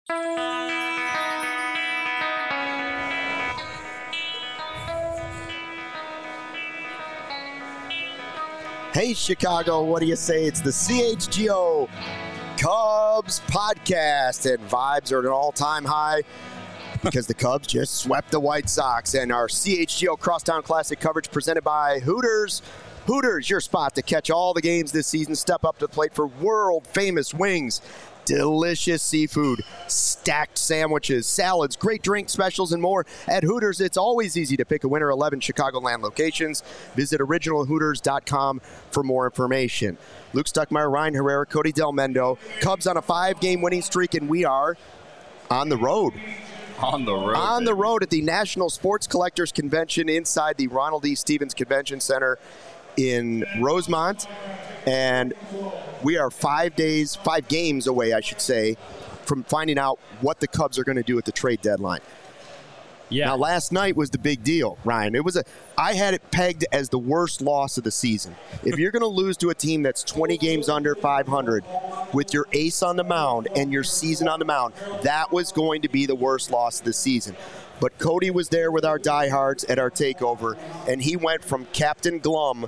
Hey, Chicago, what do you say? It's the CHGO Cubs podcast, and vibes are at an all-time high because the Cubs just swept the White Sox. And our CHGO Crosstown Classic coverage presented by Hooters. Hooters, your spot to catch all the games this season. Step up to the plate for world-famous wings, delicious seafood, stacked sandwiches, salads, great drink specials, and more. At Hooters, it's always easy to pick a winner. 11 Chicagoland locations. Visit originalhooters.com for more information. Luke Stuckmeyer, Ryan Herrera, Cody Del Mendo. Cubs on a 5-game winning streak, and we are on the road. On the road At the National Sports Collectors Convention inside the Ronald E. Stevens Convention Center in Rosemont. And we are 5 games away, I should say, from finding out what the Cubs are going to do at the trade deadline. Yeah. Now, last night was the big deal, Ryan. I had it pegged as the worst loss of the season. If you're going to lose to a team that's 20 games under 500 with your ace on the mound and your season on the mound, that was going to be the worst loss of the season. But Cody was there with our diehards at our takeover, and he went from Captain Glum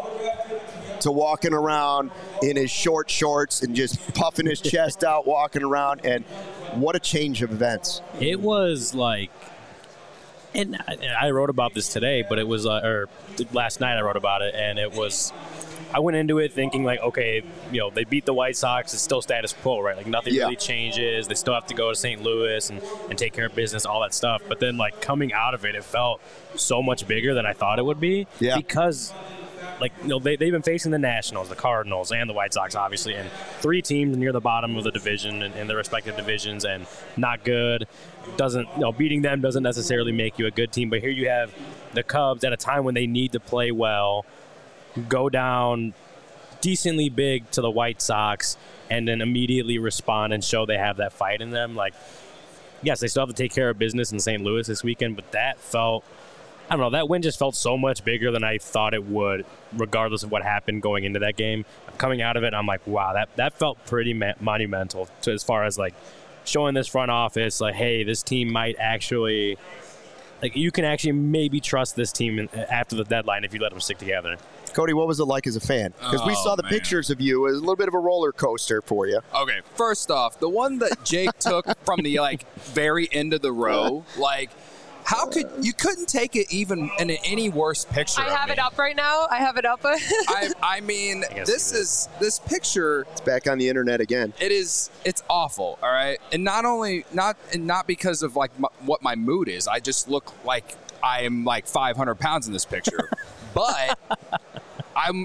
to walking around in his short shorts and just puffing his chest out, walking around, and what a change of events. It was like, and I wrote about this today, but it was, or last night I wrote about it, and it was, I went into it thinking like, okay, they beat the White Sox, it's still status quo, right? Like nothing really changes. They still have to go to St. Louis and take care of business, all that stuff. But then like coming out of it, it felt so much bigger than I thought it would be because they've been facing the Nationals, the Cardinals, and the White Sox, obviously, and 3 teams near the bottom of the division in their respective divisions, and not good. Beating them doesn't necessarily make you a good team. But here you have the Cubs at a time when they need to play well, go down decently big to the White Sox, and then immediately respond and show they have that fight in them. Like, yes, they still have to take care of business in St. Louis this weekend, but that felt, I don't know, that win just felt so much bigger than I thought it would, regardless of what happened going into that game. Coming out of it, I'm like, wow, that felt pretty monumental to as far as like showing this front office, like, hey, this team might actually, like, you can actually maybe trust this team after the deadline if you let them stick together. Cody, what was it like as a fan? Because we saw the pictures of you. It was a little bit of a roller coaster for you. Okay, first off, the one that Jake took from the very end of the row, how you couldn't take it even in any worse picture? I have it up right now. I have it up. I mean, this picture. It's back on the internet again. It's awful. All right, and not because of what my mood is. I just look like I am 500 pounds in this picture, but. I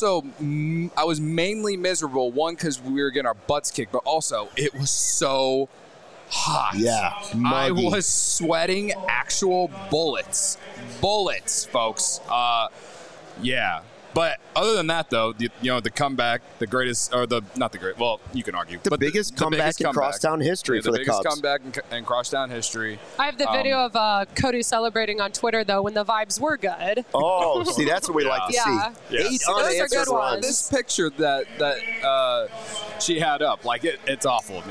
was mainly miserable, one, because we were getting our butts kicked, but also it was so hot. Yeah, muggy. I was sweating actual bullets, folks. Yeah. But other than that, though, the comeback, the greatest, or not the great, well, you can argue. The biggest comeback in crosstown history for the Cubs. The biggest comeback in crosstown history. I have the video of Cody celebrating on Twitter, though, when the vibes were good. Oh, see, that's what we like to see. Yeah. 8 unanswered runs. This picture that she had up, it's awful.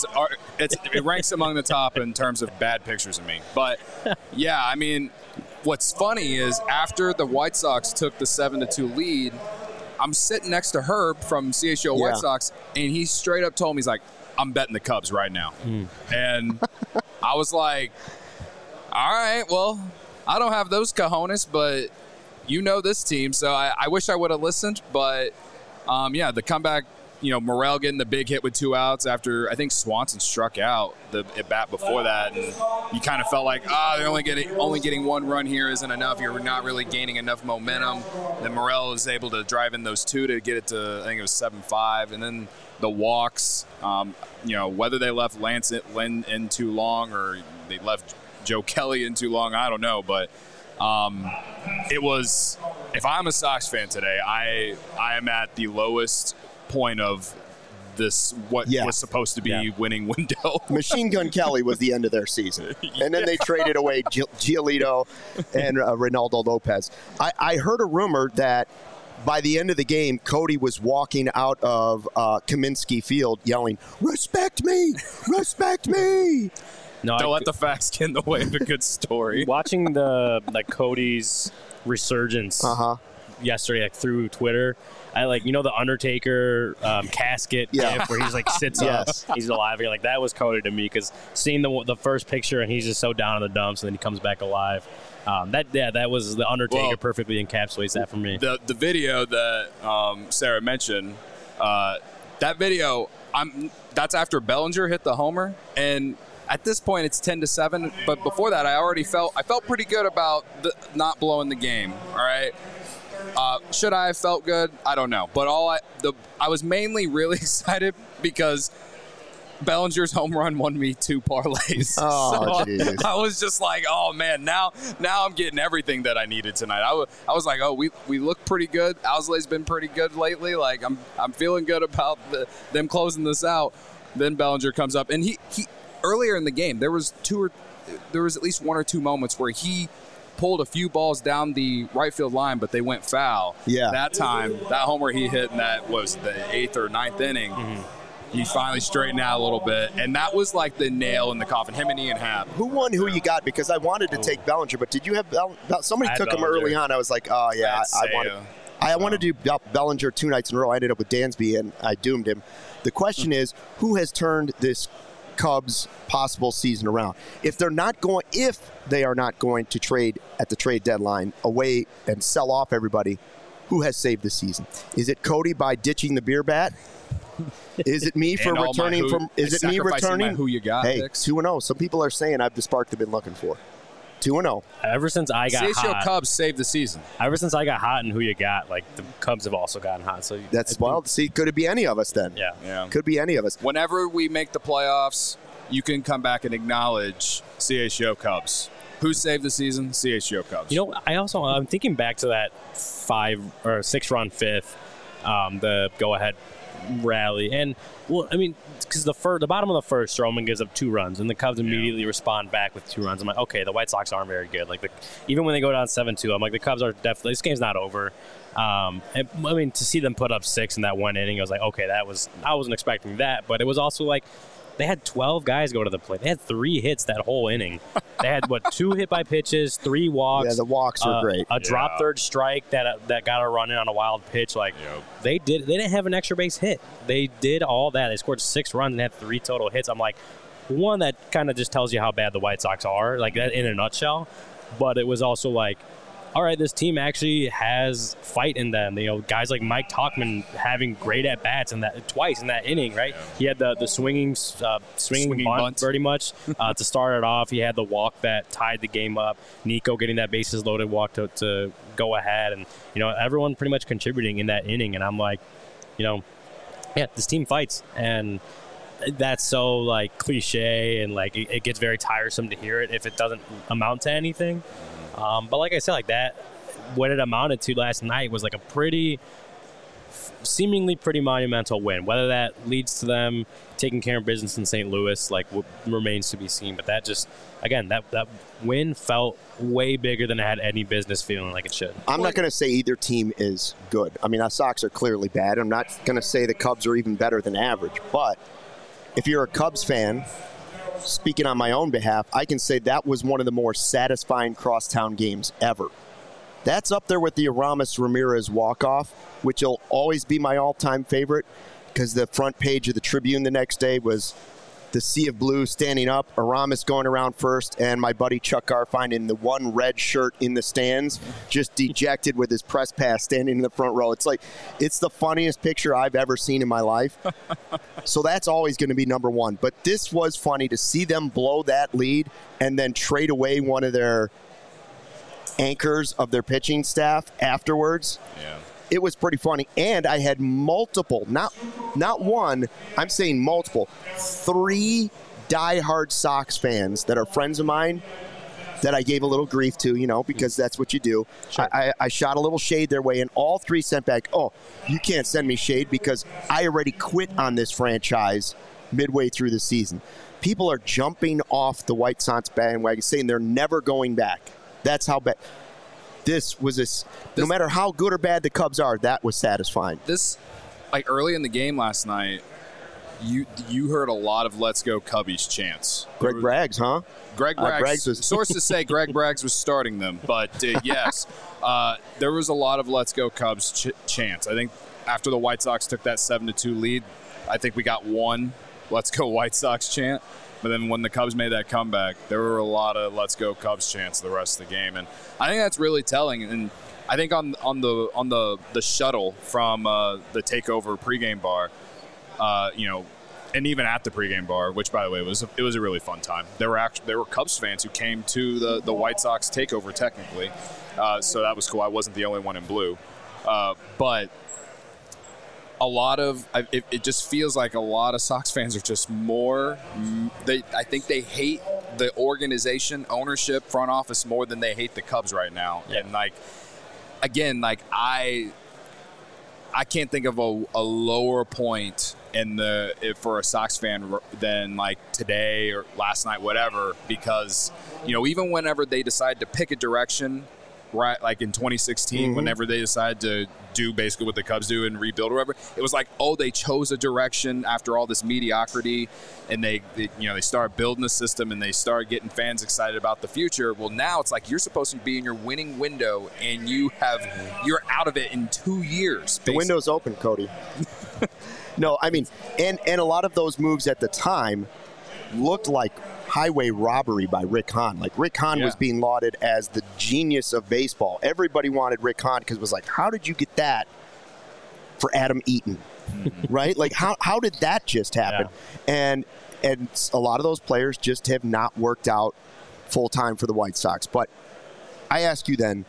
It ranks among the top in terms of bad pictures of me. But, yeah, I mean, what's funny is after the White Sox took the 7-2 lead, I'm sitting next to Herb from CHGO White Sox, and he straight up told me, he's like, I'm betting the Cubs right now. And I was like, all right, well, I don't have those cojones, but this team. So I wish I would have listened. But, the comeback, Morel getting the big hit with 2 outs after I think Swanson struck out the at bat before that, and you kind of felt like, they're only getting 1 run here isn't enough. You're not really gaining enough momentum. Then Morel was able to drive in those 2 to get it to, I think it was 7-5, and then the walks. Whether they left Lance Lynn in too long or they left Joe Kelly in too long, I don't know, but. It was. If I'm a Sox fan today, I am at the lowest point of this was supposed to be winning window. Machine Gun Kelly was the end of their season. And then they traded away Giolito and Reynaldo Lopez. I heard a rumor that by the end of the game, Cody was walking out of Kaminsky Field yelling, "Respect me! Respect me!" No, Don't let the facts get in the way of a good story. watching Cody's resurgence yesterday through Twitter. I the Undertaker casket gif where he's sits up, he's alive. You're that was Cody to me, because seeing the first picture and he's just so down in the dumps and then he comes back alive. That was the Undertaker perfectly encapsulates that for me. The video that Sarah mentioned, that video, that's after Bellinger hit the homer, and at this point it's 10-7. But before that, I felt pretty good about not blowing the game. All right. Should I have felt good? I don't know. But I was mainly really excited because Bellinger's home run won me 2 parlays. Oh, so I was just like, oh man, now I'm getting everything that I needed tonight. I was like, oh, we look pretty good. Alzolay's been pretty good lately. I'm feeling good about them closing this out. Then Bellinger comes up, and he earlier in the game there was at least 1 or 2 moments where he pulled a few balls down the right field line, but they went foul. Yeah. That time, that homer he hit in that was the 8th or 9th inning. He finally straightened out a little bit, and that was like the nail in the coffin. Him and Ian Happ. Who won? Who you got? Because I wanted to take Bellinger, but did you have somebody took him early on? I was like, oh yeah, I wanted to do Bellinger 2 nights in a row. I ended up with Dansby, and I doomed him. The question is, who has turned this Cubs possible season around? If they are not going to trade at the trade deadline away and sell off everybody, who has saved the season? Is it Cody by ditching the beer bat? Is it me for returning from? Is it me returning? Who you got? Hey, picks? 2-0. Some people are saying I've the spark they've been looking for. 2-0. Ever since I got hot, Cubs saved the season. Ever since I got hot and who you got, the Cubs have also gotten hot. So that's wild. See, could it be any of us then? Yeah. Could be any of us. Whenever we make the playoffs, you can come back and acknowledge CHGO Cubs. Who saved the season? CHGO Cubs. I'm thinking back to that 5 or 6 run fifth, the go ahead rally, and because the bottom of the first, Stroman gives up 2 runs, and the Cubs immediately respond back with 2 runs. I'm like, okay, the White Sox aren't very good. Even when they go down 7-2, I'm like, the Cubs are definitely, this game's not over. To see them put up 6 in that 1 inning, I was like, okay, I wasn't expecting that, but it was also they had 12 guys go to the plate. They had 3 hits that whole inning. They had 2 hit by pitches, 3 walks. Yeah, the walks were great. A drop third strike that got a run in on a wild pitch. They didn't have an extra base hit. They did all that. They scored 6 runs and had 3 total hits. I'm like, one, that kind of just tells you how bad the White Sox are, that in a nutshell. But it was also all right, this team actually has fight in them. Guys like Mike Tauchman having great at bats twice in that inning, right? Yeah. He had the swinging bunt pretty much to start it off. He had the walk that tied the game up. Nico getting that bases loaded walk to go ahead, and everyone pretty much contributing in that inning. And I'm like, this team fights, and that's so cliche, and it gets very tiresome to hear it if it doesn't amount to anything. But like I said, that what it amounted to last night was a seemingly pretty monumental win. Whether that leads to them taking care of business in St. Louis, remains to be seen. But that just, again, that win felt way bigger than it had any business feeling like it should. I'm not going to say either team is good. Our Sox are clearly bad. I'm not going to say the Cubs are even better than average. But if you're a Cubs fan, speaking on my own behalf, I can say that was one of the more satisfying crosstown games ever. That's up there with the Aramis Ramirez walk-off, which will always be my all-time favorite, because the front page of the Tribune the next day was the sea of blue standing up, Aramis going around first, and my buddy Chuck Garfien in the one red shirt in the stands, just dejected with his press pass standing in the front row. It's the funniest picture I've ever seen in my life. So that's always going to be number one. But this was funny to see them blow that lead and then trade away one of their anchors of their pitching staff afterwards. Yeah. It was pretty funny. And I had multiple, not one, I'm saying multiple, 3 diehard Sox fans that are friends of mine that I gave a little grief to, because that's what you do. Sure. I shot a little shade their way, and all 3 sent back, oh, you can't send me shade because I already quit on this franchise midway through the season. People are jumping off the White Sox bandwagon saying they're never going back. That's how bad. this was no matter how good or bad the Cubs are, that was satisfying. This, like early in the game last night, you heard a lot of "Let's go Cubbies" chants. Greg Braggs, huh? Greg Braggs. was Sources say Greg Braggs was starting them, but yes, there was a lot of "Let's go Cubs" chants. I think after the White Sox took that 7-2 lead, I think we got one "Let's go White Sox" chant. But then when the Cubs made that comeback, there were a lot of "Let's go Cubs" chants the rest of the game, and I think that's really telling. And I think on the shuttle from the Takeover pregame bar, and even at the pregame bar, which by the way was a really fun time. There were Cubs fans who came to the White Sox Takeover technically, so that was cool. I wasn't the only one in blue, but a lot of it just feels like a lot of Sox fans are just more. I think they hate the organization, ownership, front office more than they hate the Cubs right now, and I can't think of a lower point for a Sox fan than like today or last night, whatever, because even whenever they decide to pick a direction, right, like in 2016, whenever they decided to do basically what the Cubs do and rebuild or whatever, it was like, oh, they chose a direction after all this mediocrity, and they started building a system and they started getting fans excited about the future. Well, now it's like you're supposed to be in your winning window and you're out of it in 2 years. Basically. The window's open, Cody. No, I mean, and a lot of those moves at the time looked like highway robbery by Rick Hahn. Like, Rick Hahn was being lauded as the genius of baseball. Everybody wanted Rick Hahn because it was like, how did you get that for Adam Eaton? Right? Like, how did that just happen? Yeah. And a lot of those players just have not worked out full-time for the White Sox. But I ask you then,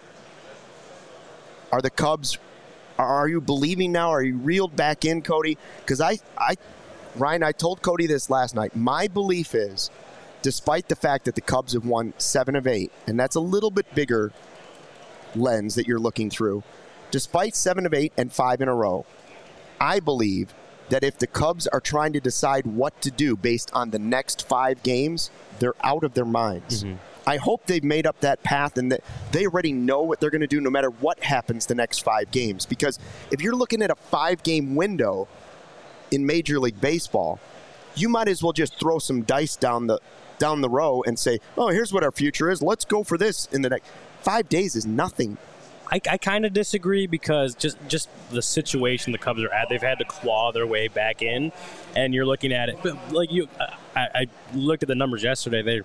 are the Cubs, are you believing now? Are you reeled back in, Cody? Because Ryan, I told Cody this last night. My belief is, despite the fact that the Cubs have won 7 of 8, and that's a little bit bigger lens that you're looking through, despite 7 of 8 and 5 in a row, I believe that if the Cubs are trying to decide what to do based on the next 5 games, they're out of their minds. Mm-hmm. I hope they've made up that path and that they already know what they're going to do no matter what happens the next 5 games. Because if you're looking at a 5-game window in Major League Baseball, you might as well just throw some dice down the row and say, oh, here's what our future is. Let's go for this in the next 5 days is nothing. I kind of disagree because just the situation the Cubs are at, they've had to claw their way back in, and you're looking at it. But I looked at the numbers yesterday. They're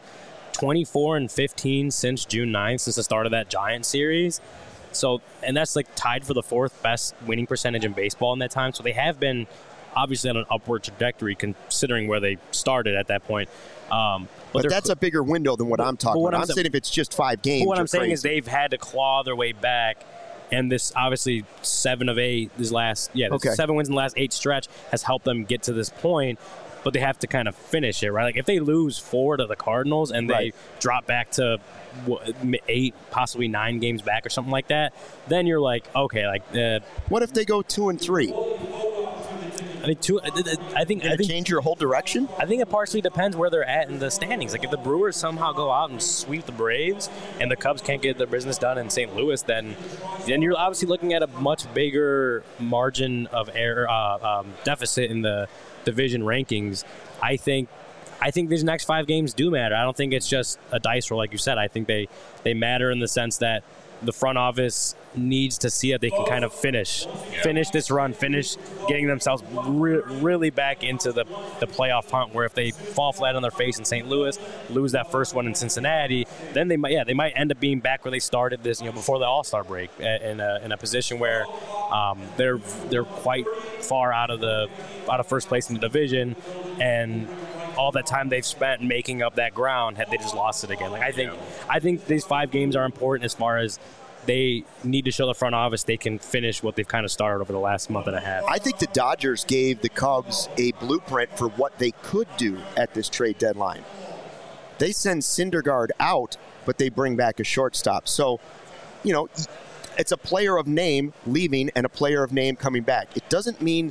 24-15 since June 9th, since the start of that Giant series. So, and that's like tied for the 4th best winning percentage in baseball in that time. So they have been obviously on an upward trajectory considering where they started at that point. But that's a bigger window than what I'm talking about. I'm saying if it's just 5 games. What I'm saying is they've had to claw their way back, and this obviously 7 of 8, 7 wins in the last 8 stretch has helped them get to this point. But they have to kind of finish it, right? Like if they lose 4 to the Cardinals and they drop back to 8, possibly 9 games back or something like that, then you're like, okay, like what if they go 2-3? I think change your whole direction. I think it partially depends where they're at in the standings. Like if the Brewers somehow go out and sweep the Braves, and the Cubs can't get their business done in St. Louis, then you're obviously looking at a much bigger margin of error deficit in the division rankings. I think these next 5 games do matter. I don't think it's just a dice roll, like you said. I think they matter in the sense that the front office needs to see that they can kind of finish this run, finish getting themselves really back into the playoff hunt, where if they fall flat on their face in St. Louis, lose that first one in Cincinnati, then they might end up being back where they started this, before the All-Star break, in a position where they're quite far out of first place in the division, and all that time they've spent making up that ground, had they just lost it again. Like I think these 5 games are important as far as they need to show the front office they can finish what they've kind of started over the last month and a half. I think the Dodgers gave the Cubs a blueprint for what they could do at this trade deadline. They send Syndergaard out, but they bring back a shortstop. So, it's a player of name leaving and a player of name coming back. It doesn't mean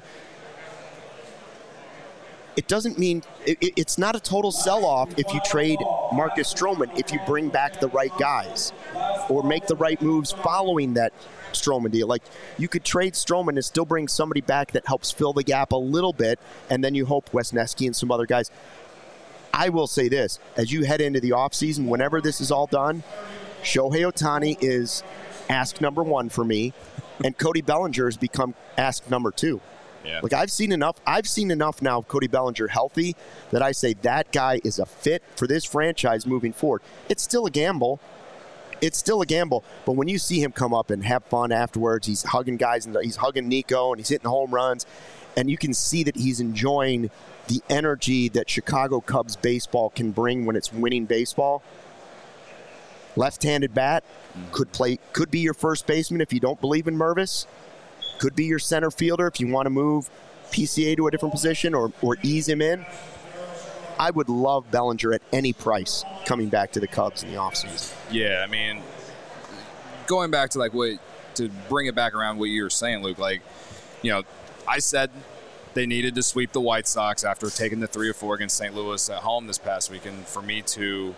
it's not a total sell-off if you trade Marcus Stroman if you bring back the right guys. or make the right moves following that Stroman deal. Like, you could trade Stroman and still bring somebody back that helps fill the gap a little bit, and then you hope Wesneski and some other guys. I will say this, as you head into the offseason, whenever this is all done, Shohei Ohtani is ask number 1 for me, and Cody Bellinger has become ask number 2. Yeah. Like, I've seen enough now of Cody Bellinger healthy that I say that guy is a fit for this franchise moving forward. It's still a gamble. But when you see him come up and have fun afterwards, he's hugging guys, and he's hugging Nico, and he's hitting home runs, and you can see that he's enjoying the energy that Chicago Cubs baseball can bring when it's winning baseball. Left-handed bat, could be your first baseman if you don't believe in Mervis. Could be your center fielder if you want to move PCA to a different position or ease him in. I would love Bellinger at any price coming back to the Cubs in the offseason. Yeah, I mean, going back to to bring it back around what you were saying, Luke, I said they needed to sweep the White Sox after taking the 3-4 against St. Louis at home this past weekend for me to,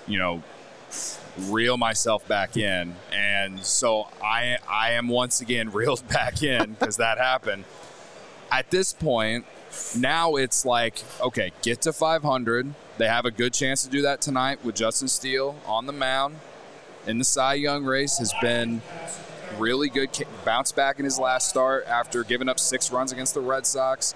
reel myself back in. And so I am once again reeled back in because that happened. At this point, now it's like, okay, get to 500. They have a good chance to do that tonight with Justin Steele on the mound in the Cy Young race. Has been really good. Bounce back in his last start after giving up 6 runs against the Red Sox.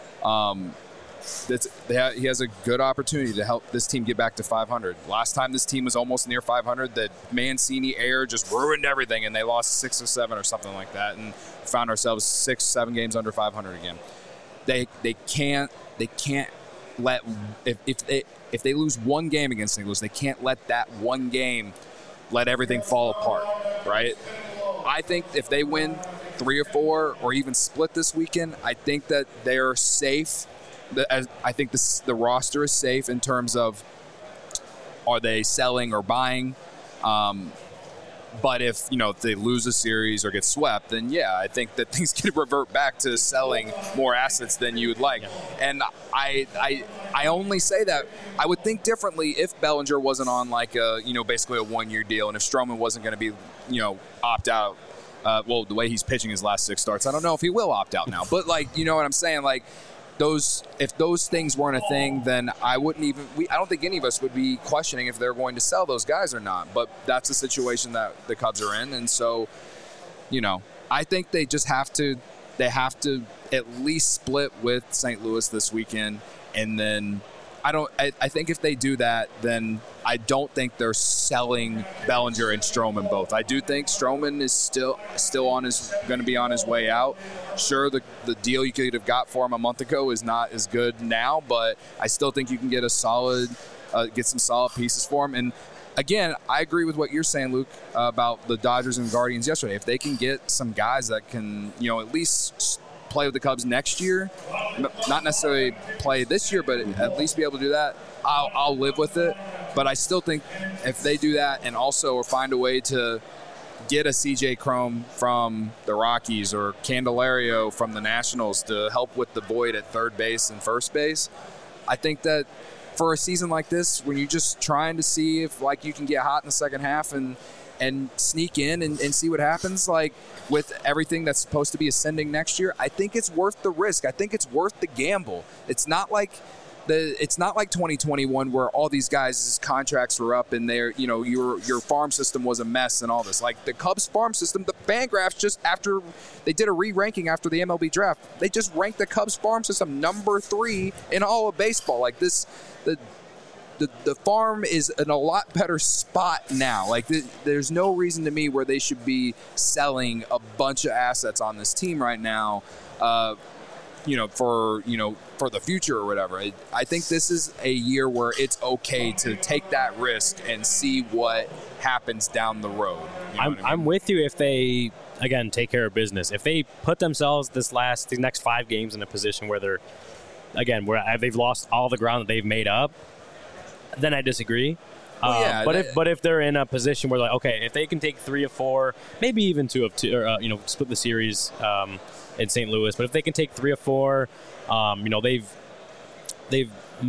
He has a good opportunity to help this team get back to 500. Last time this team was almost near 500, the Mancini error just ruined everything, and they lost 6 or 7 or something like that, and found ourselves 6-7 games under 500 again. They can't let if they lose one game against St. Louis, they can't let that one game let everything fall apart, right? I think if they win 3 or 4 or even split this weekend, I think that they're safe. I think the roster is safe in terms of are they selling or buying. But if they lose a series or get swept, then I think that things can revert back to selling more assets than you would like. And I only say that I would think differently if Bellinger wasn't on basically a 1-year deal, and if Stroman wasn't going to be opt out. The way he's pitching his last 6 starts, I don't know if he will opt out now. But you know what I'm saying? If those things weren't a thing, then I don't think any of us would be questioning if they're going to sell those guys or not. But that's the situation that the Cubs are in. And so, I think they just have to at least split with St. Louis this weekend. And then I think if they do that, then I don't think they're selling Bellinger and Stroman both. I do think Stroman is still going to be on his way out. Sure, the deal you could have got for him a month ago is not as good now, but I still think you can get get some solid pieces for him. And again, I agree with what you're saying, Luke, about the Dodgers and Guardians yesterday. If they can get some guys that can, at least play with the Cubs next year, not necessarily play this year, but at least be able to do that, I'll live with it. But I still think if they do that and also find a way to get a CJ Cron from the Rockies or Candelario from the Nationals to help with the void at third base and first base, I think that for a season like this, when you're just trying to see if you can get hot in the second half and sneak in and see what happens, with everything that's supposed to be ascending next year, I think it's worth the risk. I think it's worth the gamble. It's not like 2021 where all these guys' contracts were up and your farm system was a mess and all this. The Cubs farm system, the Fangraphs, just after they did a re-ranking after the MLB draft, they just ranked the Cubs farm system number 3 in all of baseball. The farm is in a lot better spot now. There's no reason to me where they should be selling a bunch of assets on this team right now, for the future or whatever. I think this is a year where it's okay to take that risk and see what happens down the road. I'm with you if they, again, take care of business. If they put themselves these next 5 games in a position where they've lost all the ground that they've made up, then I disagree. But if they're in a position where if they can take 3 of 4, maybe even 2 of 2, or split the series in St. Louis, but if they can take 3 of 4, they've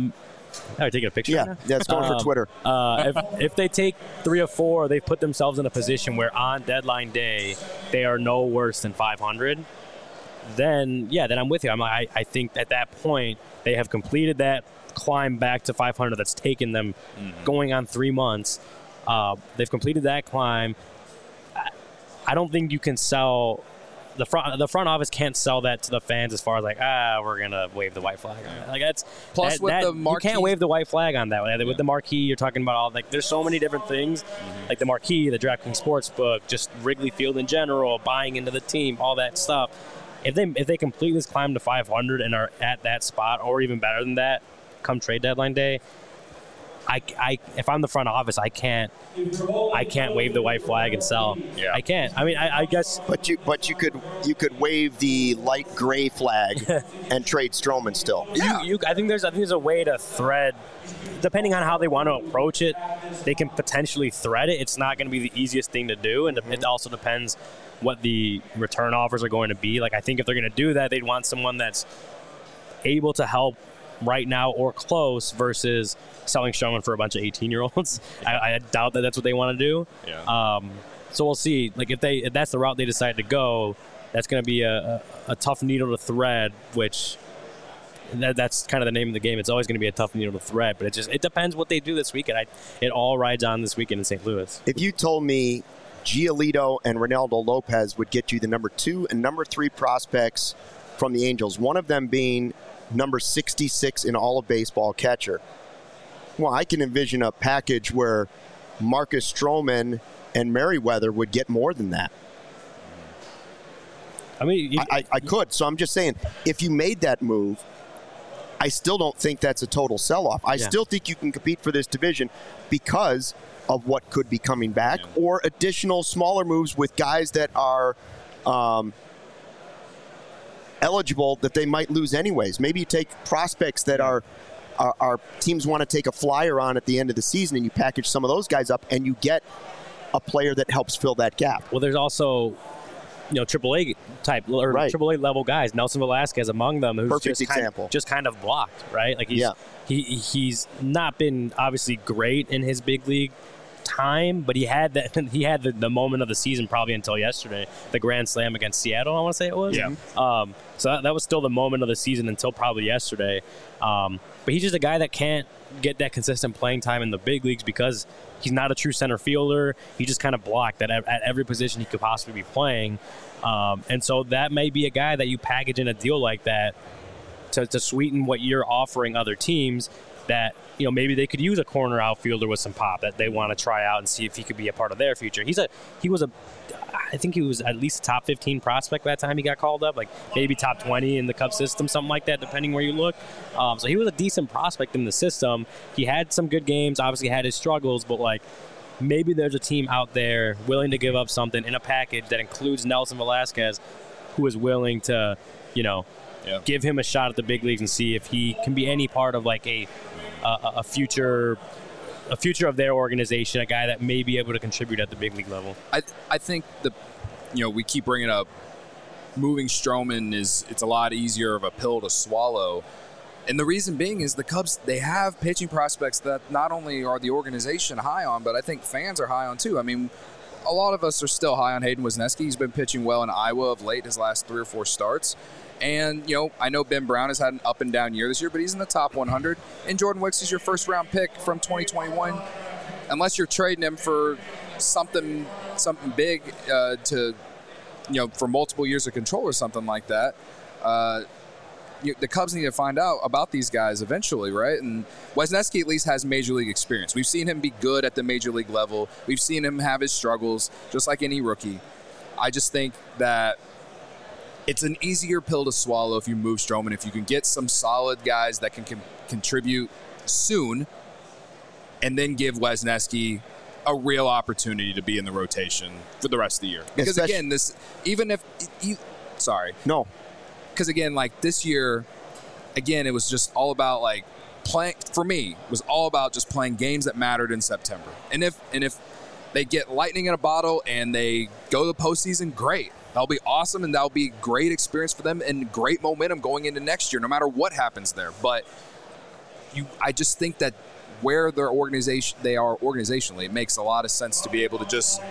Are taking a picture? Yeah, right now? that's going for Twitter. If they take 3 or 4, they've put themselves in a position where on deadline day they are no worse than 500. Then I'm with you. I think at that point they have completed that climb back to 500 that's taken them going on 3 months. They've completed that climb. I don't think you can sell the front office can't sell that to the fans as far as we're gonna wave the white flag on it. Like that's plus with the marquee, you can't wave the white flag on that. With the marquee, you're talking about all there's so many different things, like the marquee, the DraftKings Sportsbook, just Wrigley Field in general, buying into the team, all that stuff. If they complete this climb to 500 and are at that spot or even better than that, come trade deadline day, if I'm the front office, I can't wave the white flag and sell. Yeah. I can't. I mean, I guess. But you could wave the light gray flag and trade Stroman still. Yeah. I think there's a way to thread, depending on how they want to approach it. They can potentially thread it. It's not going to be the easiest thing to do, and it also depends what the return offers are going to be. Like I think if they're going to do that, they'd want someone that's able to help right now or close versus selling Stroman for a bunch of 18-year-olds. I doubt that that's what they want to do. Yeah. So we'll see. Like if that's the route they decide to go, that's going to be a tough needle to thread, which that's kind of the name of the game. It's always going to be a tough needle to thread, but it depends what they do this weekend. It all rides on this weekend in St. Louis. If you told me Giolito and Ronaldo Lopez would get you the number 2 and number 3 prospects from the Angels, one of them being number 66 in all of baseball catcher. Well, I can envision a package where Marcus Stroman and Merriweather would get more than that. I mean, I could. So I'm just saying, if you made that move, I still don't think that's a total sell-off. I still think you can compete for this division because of what could be coming back or additional smaller moves with guys that are eligible that they might lose anyways. Maybe you take prospects that are teams want to take a flyer on at the end of the season, and you package some of those guys up, and you get a player that helps fill that gap. Well, there's also AAA type or AAA level guys. Nelson Velasquez among them, who's just kind of blocked, right? Like he's not been obviously great in his big league time, but he had the moment of the season probably until yesterday, the grand slam against Seattle, I want to say it was. Yeah. So that was still the moment of the season until probably yesterday. But he's just a guy that can't get that consistent playing time in the big leagues because he's not a true center fielder. He just kind of blocked at every position he could possibly be playing. And so that may be a guy that you package in a deal like that to sweeten what you're offering other teams that, maybe they could use a corner outfielder with some pop that they want to try out and see if he could be a part of their future. I think he was at least a top 15 prospect by the time he got called up, like maybe top 20 in the Cubs system, something like that, depending where you look. So he was a decent prospect in the system. He had some good games, obviously had his struggles, but maybe there's a team out there willing to give up something in a package that includes Nelson Velasquez, who is willing to, give him a shot at the big leagues and see if he can be any part of a future of their organization, a guy that may be able to contribute at the big league level. I think we keep bringing up moving Stroman it's a lot easier of a pill to swallow. And the reason being is the Cubs, they have pitching prospects that not only are the organization high on, but I think fans are high on too. I mean, a lot of us are still high on Hayden Wesneski. He's been pitching well in Iowa of late, his last 3 or 4 starts. And, I know Ben Brown has had an up and down year this year, but he's in the top 100. And Jordan Wicks is your first-round pick from 2021. Unless you're trading him for something big for multiple years of control or something like that, the Cubs need to find out about these guys eventually, right? And Wesneski at least has major league experience. We've seen him be good at the major league level. We've seen him have his struggles, just like any rookie. I just think that it's an easier pill to swallow if you move Stroman, if you can get some solid guys that can contribute soon, and then give Wesneski a real opportunity to be in the rotation for the rest of the year. Because again, this this year, again, it was just all about playing. For me, it was all about just playing games that mattered in September. And if they get lightning in a bottle and they go to the postseason, great. That'll be awesome, and that'll be a great experience for them and great momentum going into next year, no matter what happens there. But I just think that where they are organizationally, it makes a lot of sense to be able to just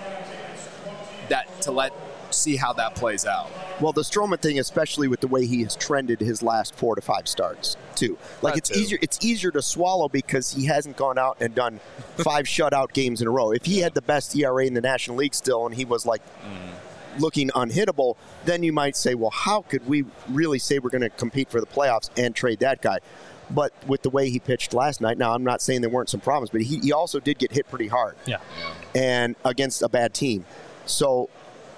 see how that plays out. Well, the Stroman thing, especially with the way he has trended his last 4 to 5 starts, too. Like, it's easier to swallow because he hasn't gone out and done 5 shutout games in a row. If he had the best ERA in the National League still and he was, like, looking unhittable, then you might say, well, how could we really say we're going to compete for the playoffs and trade that guy? But with the way he pitched last night, now I'm not saying there weren't some problems, but he also did get hit pretty hard. Yeah. And against a bad team. So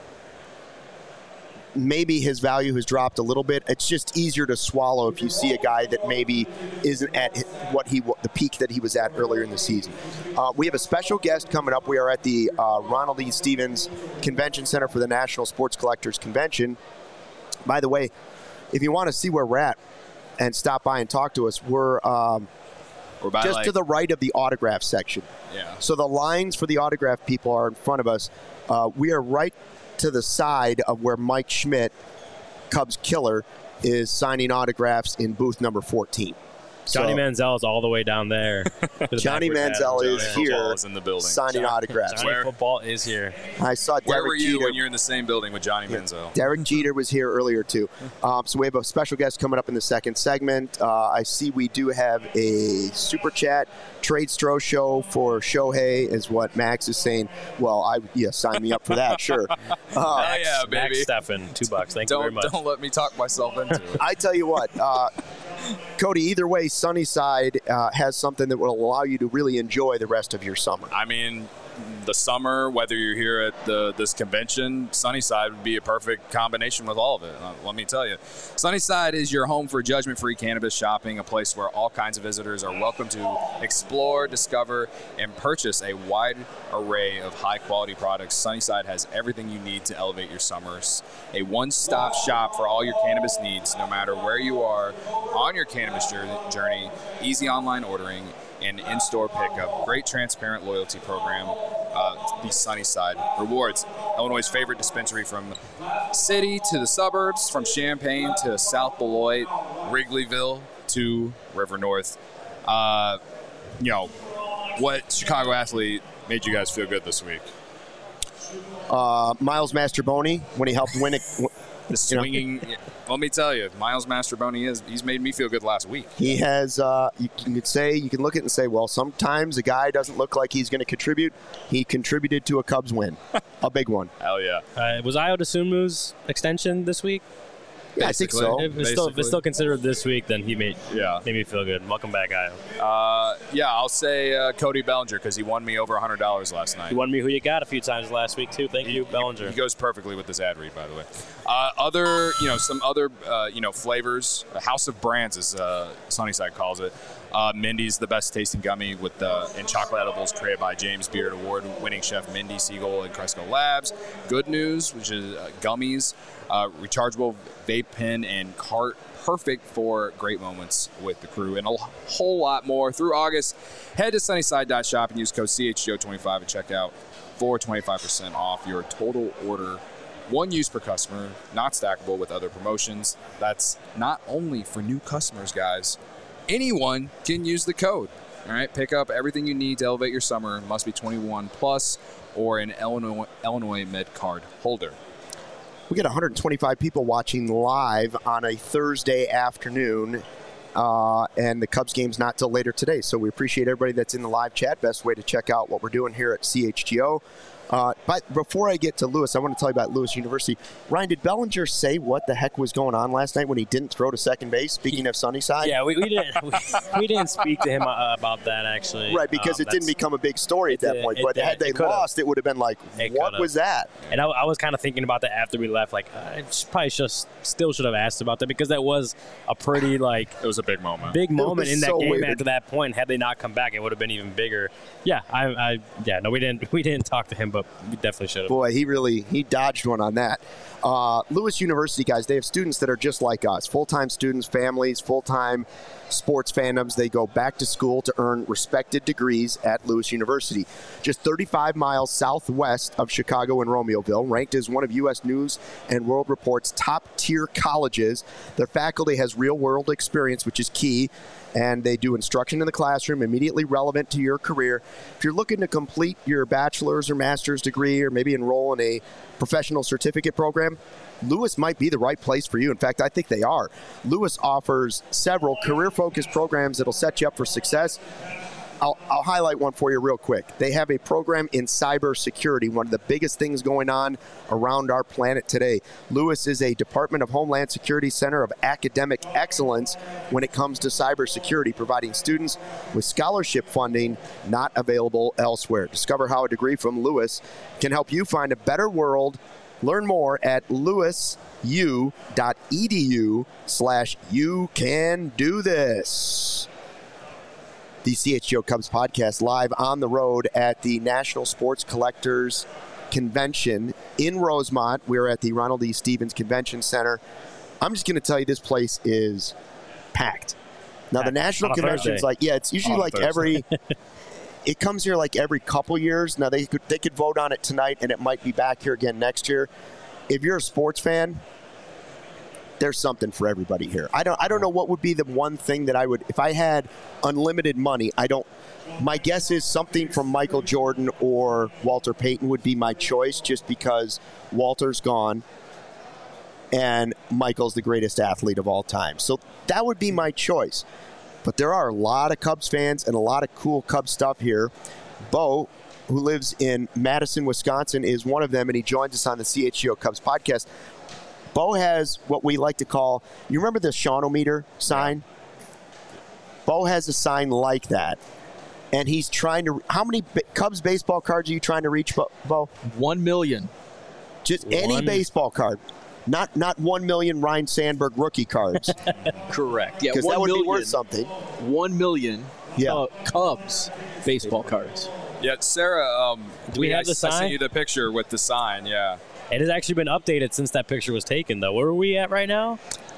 maybe his value has dropped a little bit. It's just easier to swallow if you see a guy that maybe isn't at the peak that he was at earlier in the season. We have a special guest coming up. We are at the Ronald E. Stevens Convention Center for the National Sports Collectors Convention. By the way, if you want to see where we're at and stop by and talk to us, we're just to the right of the autograph section. Yeah. So the lines for the autograph people are in front of us. We are right to the side of where Mike Schmidt, Cubs killer, is signing autographs in booth number 14. Johnny Manziel is all the way down there. Johnny Manziel is here in the building. signing autographs. Johnny Football is here. I saw Derek Where were you Jeter. when you're in the same building with Johnny Manziel? Derek Jeter was here earlier, too. So we have a special guest coming up in the second segment. I see we do have a Super Chat trade Stro show for Shohei, is what Max is saying. Well, sign me up for that, sure. Yeah, baby. Max Steffen, $2. Thank you very much. Don't let me talk myself into it. I tell you what, Cody, either way, Sunnyside has something that will allow you to really enjoy the rest of your summer. I mean, the summer, whether you're here at this convention, Sunnyside would be a perfect combination with all of it. Let me tell you. Sunnyside is your home for judgment-free cannabis shopping, a place where all kinds of visitors are welcome to explore, discover, and purchase a wide array of high-quality products. Sunnyside has everything you need to elevate your summers. A one-stop shop for all your cannabis needs, no matter where you are on your cannabis journey, easy online ordering, and in-store pickup. Great transparent loyalty program. The Sunnyside Rewards, Illinois' favorite dispensary from city to the suburbs, from Champaign to South Beloit, Wrigleyville to River North. What Chicago athlete made you guys feel good this week? Miles Mastroboni, when he helped win it. The swinging. Let me tell you, Miles Mastroboni he's made me feel good last week. He has, you can look at it and say, well, sometimes a guy doesn't look like he's going to contribute. He contributed to a Cubs win, a big one. Hell yeah. Was Ayo Dosunmu's extension this week? Yeah, I think so. If it's still considered this week, then he made me feel good. Welcome back, Ayo. I'll say Cody Bellinger because he won me over $100 last night. He won me Who You Got a few times last week, too. Thank you, Bellinger. He goes perfectly with this ad read, by the way. Some other flavors. House of Brands, as Sunnyside calls it. Mindy's the best tasting gummy in chocolate edibles created by James Beard award-winning chef Mindy Siegel and Cresco Labs. Good News, which is gummies, rechargeable vape pen and cart, perfect for great moments with the crew, and a whole lot more. Through August, head to sunnyside.shop and use code CHGO25 at checkout for 25% off your total order. One use per customer, not stackable with other promotions. That's not only for new customers, guys. Anyone can use the code. All right, pick up everything you need to elevate your summer. Must be 21 plus or an Illinois Med card holder. We got 125 people watching live on a Thursday afternoon, and the Cubs game's not till later today. So we appreciate everybody that's in the live chat. Best way to check out what we're doing here at CHGO. But before I get to Lewis, I want to tell you about Lewis University. Ryan, did Bellinger say what the heck was going on last night when he didn't throw to second base, speaking of Sunnyside? Yeah, we didn't speak to him about that, actually. Right, because it didn't become a big story at that point. But had they lost, it would have been like, what was that? And I was kind of thinking about that after we left. Like, I probably still should have asked about that because that was a pretty, it was a big moment. Big moment in that so game weird. after that point. Had they not come back, it would have been even bigger. Yeah, we didn't talk to him, but we definitely should have. Boy, he dodged one on that. Lewis University, guys, they have students that are just like us. Full-time students, families, full-time sports fandoms. They go back to school to earn respected degrees at Lewis University. Just 35 miles southwest of Chicago and Romeoville, ranked as one of U.S. News and World Report's top-tier colleges. Their faculty has real-world experience, which is key. and they do instruction in the classroom immediately relevant to your career. If you're looking to complete your bachelor's or master's degree or maybe enroll in a professional certificate program, Lewis might be the right place for you. In fact, I think they are. Lewis offers several career-focused programs that'll set you up for success. I'll highlight one for you real quick. They have a program in cybersecurity, one of the biggest things going on around our planet today. Lewis is a Department of Homeland Security Center of academic excellence when it comes to cybersecurity, providing students with scholarship funding not available elsewhere. Discover how a degree from Lewis can help you find a better world. Learn more at lewisu.edu/you-can-do-this. The CHGO Cubs podcast live on the road at the National Sports Collectors Convention in Rosemont. We're at the Ronald E. Stevens Convention Center. I'm just going to tell you, this place is packed. Now, the National Convention's it's usually like every... It comes here like every couple years. Now, they could vote on it tonight, and it might be back here again next year. If you're a sports fan, there's something for everybody here. I don't know what would be the one thing that I would, if I had unlimited money, my guess is something from Michael Jordan or Walter Payton would be my choice, just because Walter's gone and Michael's the greatest athlete of all time. So that would be my choice. But there are a lot of Cubs fans and a lot of cool Cubs stuff here. Bo, who lives in Madison, Wisconsin, is one of them, and he joins us on the CHGO Cubs podcast. Bo has what we like to call, you remember the Shawnometer sign? Yeah. Bo has a sign like that. And he's trying to, how many Cubs baseball cards are you trying to reach, Bo? 1 million. Just any baseball card. Not 1 million Ryne Sandberg rookie cards. Correct. Yeah, because that would be worth something. 1 million Cubs baseball cards. Yeah, Sarah, do we have the sign? I sent you the picture with the sign, yeah. It has actually been updated since that picture was taken, though. Where are we at right now?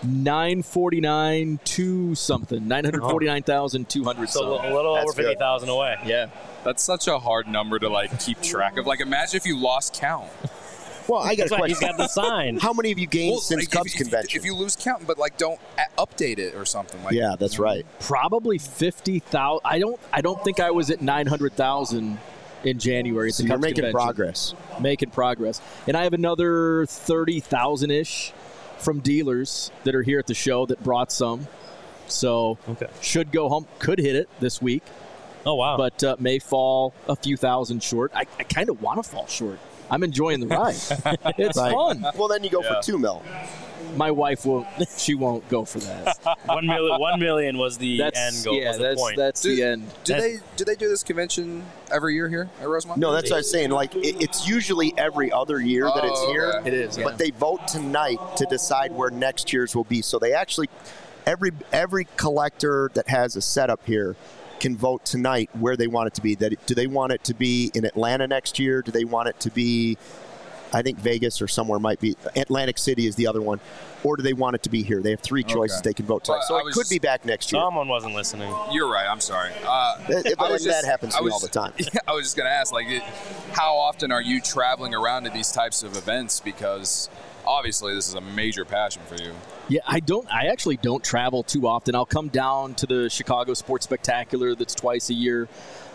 949 to something. 949,200. So a little over 50,000 away. Yeah. That's such a hard number to keep track of. Imagine if you lost count. Well, I got a question. He's got the sign. How many have you gained since Cubs convention? If you lose count, but don't update it or something Yeah, that's right. Probably 50,000. I don't think I was at 900,000 in January. So you're making progress. Making progress. And I have another 30,000-ish from dealers that are here at the show that brought some. So should go home. Could hit it this week. Oh, wow. But may fall a few thousand short. I kind of want to fall short. I'm enjoying the ride. It's fun. Well, then you go for $2 million. My wife won't. She won't go for that. 1 million was the end goal. Yeah, point. That's the end. Do they do this convention every year here at Rosemont? No, that's what I was saying. It's usually every other year that it's here. It is. But they vote tonight to decide where next year's will be. So they actually, every collector that has a setup here can vote tonight where they want it to be. Do they want it to be in Atlanta next year? Do they want it to be, I think Vegas or somewhere might be, Atlantic City is the other one. Or do they want it to be here? They have 3 choices they can vote tonight. So it could be back next year. Someone wasn't listening. You're right. I'm sorry. That happens to me all the time. I was just going to ask, how often are you traveling around to these types of events? Because obviously this is a major passion for you. Yeah, I actually don't travel too often. I'll come down to the Chicago Sports Spectacular that's twice a year.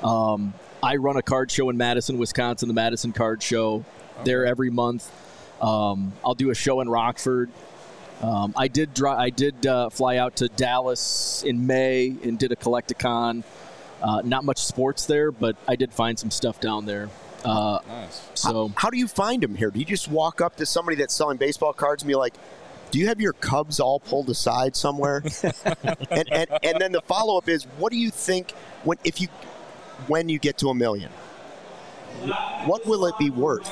I run a card show in Madison, Wisconsin, the Madison Card Show. There every month. I'll do a show in Rockford. I did fly out to Dallas in May and did a Collecticon. Not much sports there, but I did find some stuff down there. Nice. So how do you find them here? Do you just walk up to somebody that's selling baseball cards and be like, do you have your Cubs all pulled aside somewhere? and then the follow-up is, what do you think when you get to 1 million? What will it be worth?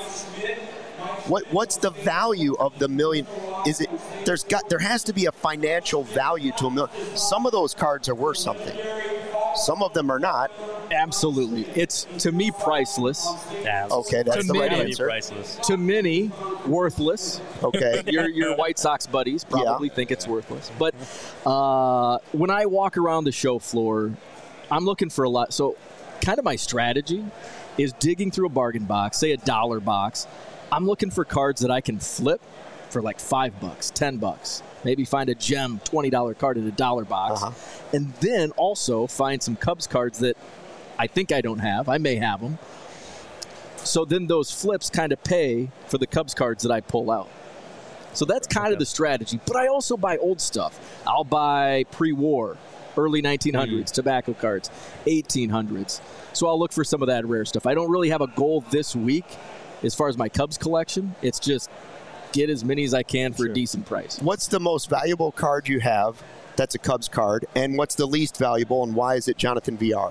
What's the value of the million? There has to be a financial value to 1 million. Some of those cards are worth something. Some of them are not. Absolutely. It's, to me, priceless. Yeah. Okay, that's the right answer. Priceless. To many, worthless. Okay. Your White Sox buddies probably think it's worthless. But when I walk around the show floor, I'm looking for a lot. So kind of my strategy is digging through a bargain box, say a $1 box. I'm looking for cards that I can flip for $5, $10. Maybe find a gem $20 card in a dollar box. And then also find some Cubs cards that I think I don't have. I may have them. So then those flips kind of pay for the Cubs cards that I pull out. So that's kind of the strategy. But I also buy old stuff. I'll buy pre-war, early 1900s, tobacco cards, 1800s. So I'll look for some of that rare stuff. I don't really have a goal this week as far as my Cubs collection. It's just get as many as I can for a decent price. What's the most valuable card you have that's a Cubs card, and what's the least valuable, and why is it Jonathan VR?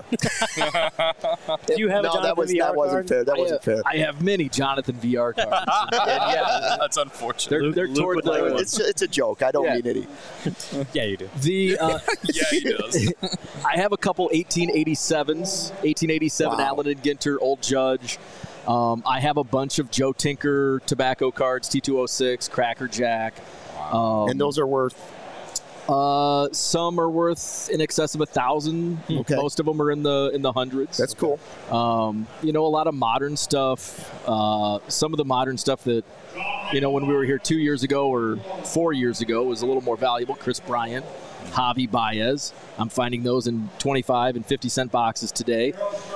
Do you have a Jonathan that VR wasn't card? fair. That wasn't fair. I have many Jonathan VR cards. Yeah, That's unfortunate. they're toward the. It's a joke. I don't Yeah. mean any. Yeah, you do. The Yeah, he does. I have a couple 1887s, 1887 Wow. Allen and Ginter, Old Judge. I have a bunch of Joe Tinker tobacco cards, T206, Cracker Jack. And those are worth. Some are worth in excess of 1,000. Okay. Most of them are in the hundreds. That's cool. A lot of modern stuff. Some of the modern stuff that, when we were here 2 years ago or 4 years ago was a little more valuable. Chris Bryant, Javi Baez. I'm finding those in 25 and 50-cent boxes today.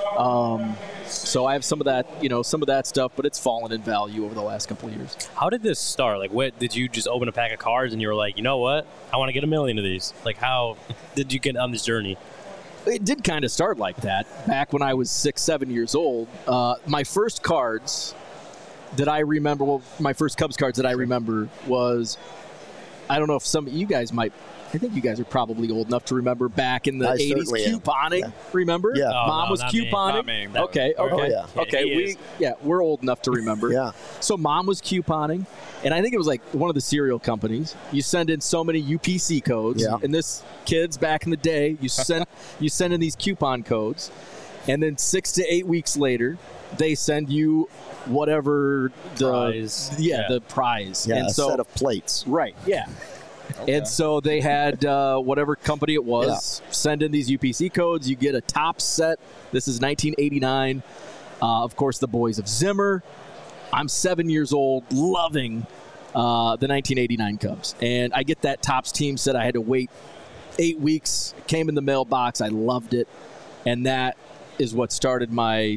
So I have some of that stuff, but it's fallen in value over the last couple of years. How did this start? Like, what did you just open a pack of cards and you were like, you know what? I want to get 1 million of these. Like, how did you get on this journey? It did kind of start like that back when I was 6-7 years old. My first cards that I remember, my first Cubs cards that I remember was, I don't know if some of you guys might. I think you guys are probably old enough to remember back in the 80s couponing. Yeah. Remember? Yeah. Mom was not me. couponing. Not me. Okay. Oh, yeah. Okay. We're old enough to remember. Yeah. So Mom was couponing, and I think it was like one of the cereal companies. You send in so many UPC codes, Yeah. and this kids back in the day, you send in these coupon codes, and then 6 to 8 weeks later, they send you whatever the Prize. the prize. Yeah, and a so, set of plates. right. Yeah. And so they had whatever company it was send in these UPC codes. You get a top set. This is 1989. Of course, the Boys of Zimmer. I'm 7 years old, loving the 1989 Cubs. And I get that Topps team set. I had to wait 8 weeks. It came in the mailbox. I loved it. And that is what started my,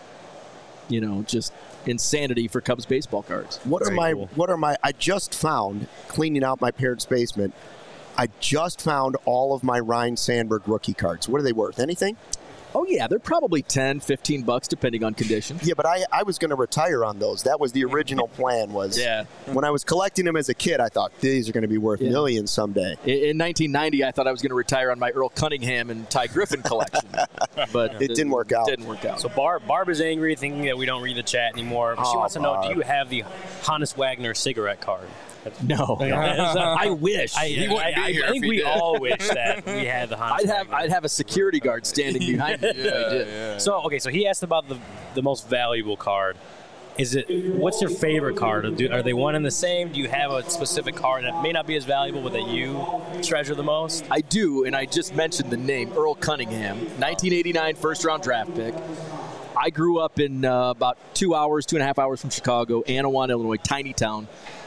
just insanity for Cubs baseball cards. What are my I just found, cleaning out my parents' basement, I just found all of my Ryan Sandberg rookie cards. What are they worth? Anything? Oh, yeah, they're probably $10, $15 depending on condition. Yeah, but I was going to retire on those. That was the original plan. When I was collecting them as a kid, I thought these are going to be worth millions someday. In 1990, I thought I was going to retire on my Earl Cunningham and Ty Griffin collection, but It didn't work out. Didn't work out. So Barb is angry, thinking that we don't read the chat anymore. But she wants to know, Barb. do you have the Hannes Wagner cigarette card? No, I wish. He wouldn't be here I think if he we did. all wish that we had the Hannes Wagner. I'd have a security guard standing behind me if I did. So he asked about the most valuable card. What's your favorite card? Are they one and the same? Do you have a specific card that may not be as valuable but that you treasure the most? I do, and I just mentioned the name Earl Cunningham, 1989 first-round draft pick. I grew up in about 2.5 hours from Chicago, Anawan, Illinois, tiny town.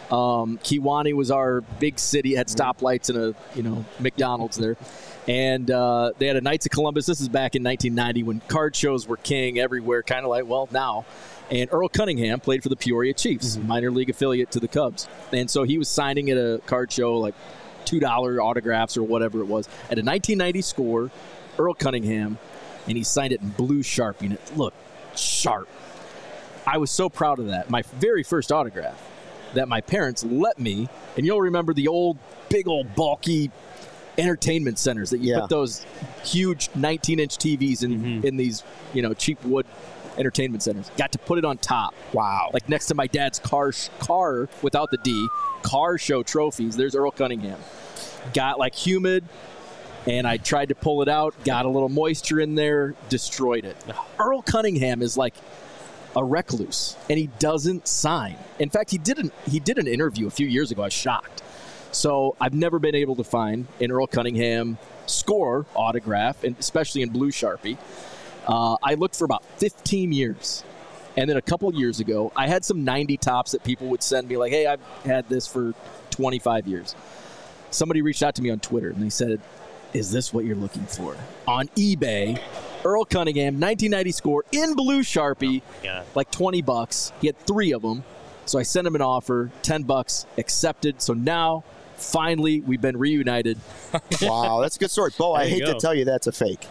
Kewanee was our big city, had stoplights and a McDonald's there. And they had a Knights of Columbus. This is back in 1990 when card shows were king everywhere, kind of like, now. And Earl Cunningham played for the Peoria Chiefs, minor league affiliate to the Cubs. And so he was signing at a card show, like $2 autographs or whatever it was. At a 1990 score, Earl Cunningham, and he signed it in blue Sharpie, and it looked sharp. I was so proud of that. My very first autograph that my parents let me, and you'll remember the old, big old, bulky entertainment centers that you put those huge 19-inch TVs in these, cheap wood entertainment centers. Got to put it on top. Wow. Like next to my dad's car without the D, car show trophies. There's Earl Cunningham. Got like humid, and I tried to pull it out, got a little moisture in there, destroyed it. Earl Cunningham is like a recluse, and he doesn't sign. In fact, he did an interview a few years ago. I was shocked. So I've never been able to find an Earl Cunningham score autograph, and especially in blue Sharpie. I looked for about 15 years. And then a couple years ago, I had some 90 tops that people would send me like, hey, I've had this for 25 years. somebody reached out to me on Twitter, and they said, is this what you're looking for? On eBay, Earl Cunningham, 1990 score, in blue Sharpie, like $20. He had 3 of them. So I sent him an offer, $10, accepted. So now, finally, we've been reunited. Wow, that's a good story. Bo, I hate to tell you that's a fake.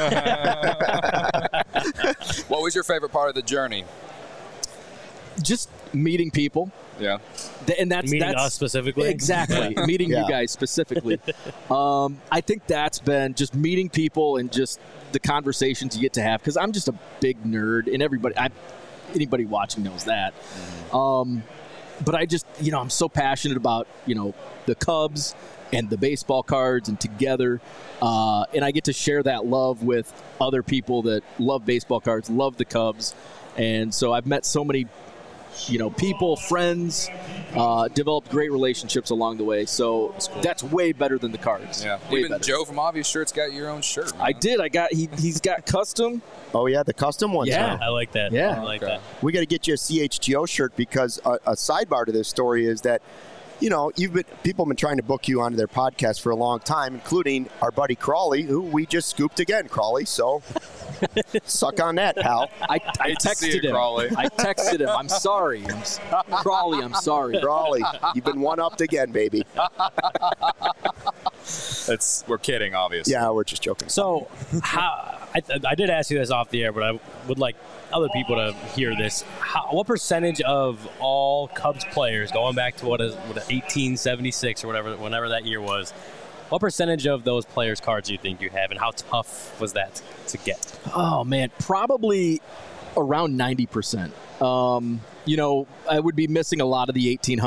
What was your favorite part of the journey? Just meeting people. Yeah. And that's us specifically? Exactly. Meeting you guys specifically. I think that's been just meeting people and just the conversations you get to have. Because I'm just a big nerd, and anybody watching knows that. But I just, I'm so passionate about, the Cubs and the baseball cards and together. And I get to share that love with other people that love baseball cards, love the Cubs. And so I've met so many, people, friends, developed great relationships along the way. So that's way better than the cards. Yeah. Way Even better. Joe from Obvious Shirts got your own shirt. Man. I did. He's got custom. Oh, yeah, the custom ones. Yeah. Huh? I like that. Yeah. I like that. We got to get you a CHGO shirt because a sidebar to this story is that, people have been trying to book you onto their podcast for a long time, including our buddy Crawley, who we just scooped again, Crawley. So suck on that, pal. I texted him. Crawley. I texted him. I'm sorry. Crawley, I'm sorry. Crawley, you've been one-upped again, baby. We're kidding, obviously. Yeah, we're just joking. So, I did ask you this off the air, but I would like other people to hear this. What percentage of all Cubs players, going back to what 1876 or whenever that year was, what percentage of those players' cards do you think you have, and how tough was that to get? Oh, man, probably around 90%. I would be missing a lot of the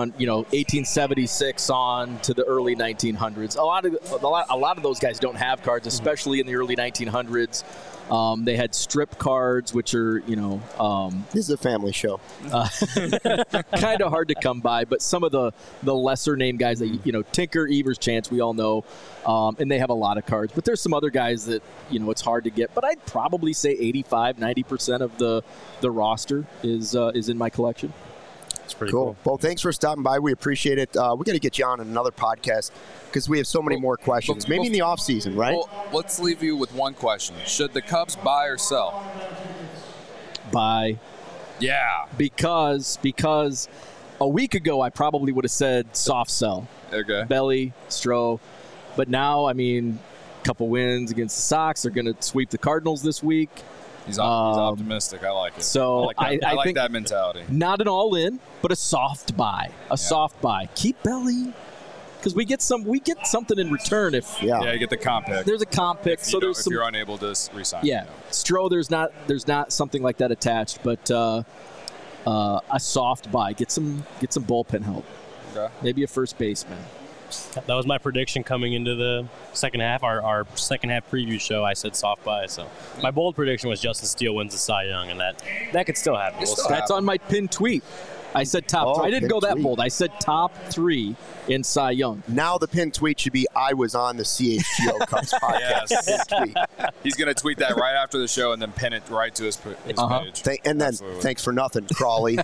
1876 on to the early 1900s. A lot of those guys don't have cards, especially in the early 1900s. They had strip cards, which are, this is a family show. kind of hard to come by, but some of the lesser name guys that, Tinker, Evers, Chance, we all know, and they have a lot of cards. But there's some other guys that, it's hard to get. But I'd probably say 85-90% of the roster is in my collection. It's pretty cool. Well, thanks for stopping by. We appreciate it. We got to get you on another podcast because we have so many more questions. Maybe in the off season, right? Well, let's leave you with one question: should the Cubs buy or sell? Buy. Yeah. Because a week ago I probably would have said soft sell. Okay. Belly, Stroh. But now, a couple wins against the Sox. They're going to sweep the Cardinals this week. He's optimistic. I like it. So I like think that mentality. Not an all-in, but a soft buy. Soft buy. Keep Belly, because we get something in return if You get the comp pick. there's a comp pick. If you're unable to resign. Yeah, Stroh, there's not something like that attached, but a soft buy. Get some bullpen help. Okay. Maybe a first baseman. That was my prediction coming into the second half. Our second half preview show, I said soft buy. So my bold prediction was Justin Steele wins the Cy Young, and that could still happen. That's on my pinned tweet. I said top three. I didn't go that bold. I said top 3 in Cy Young. Now the pinned tweet should be, I was on the CHGO Cubs podcast. Yes. Tweet. He's going to tweet that right after the show and then pin it right to his page. And then, thanks for nothing, Crawley.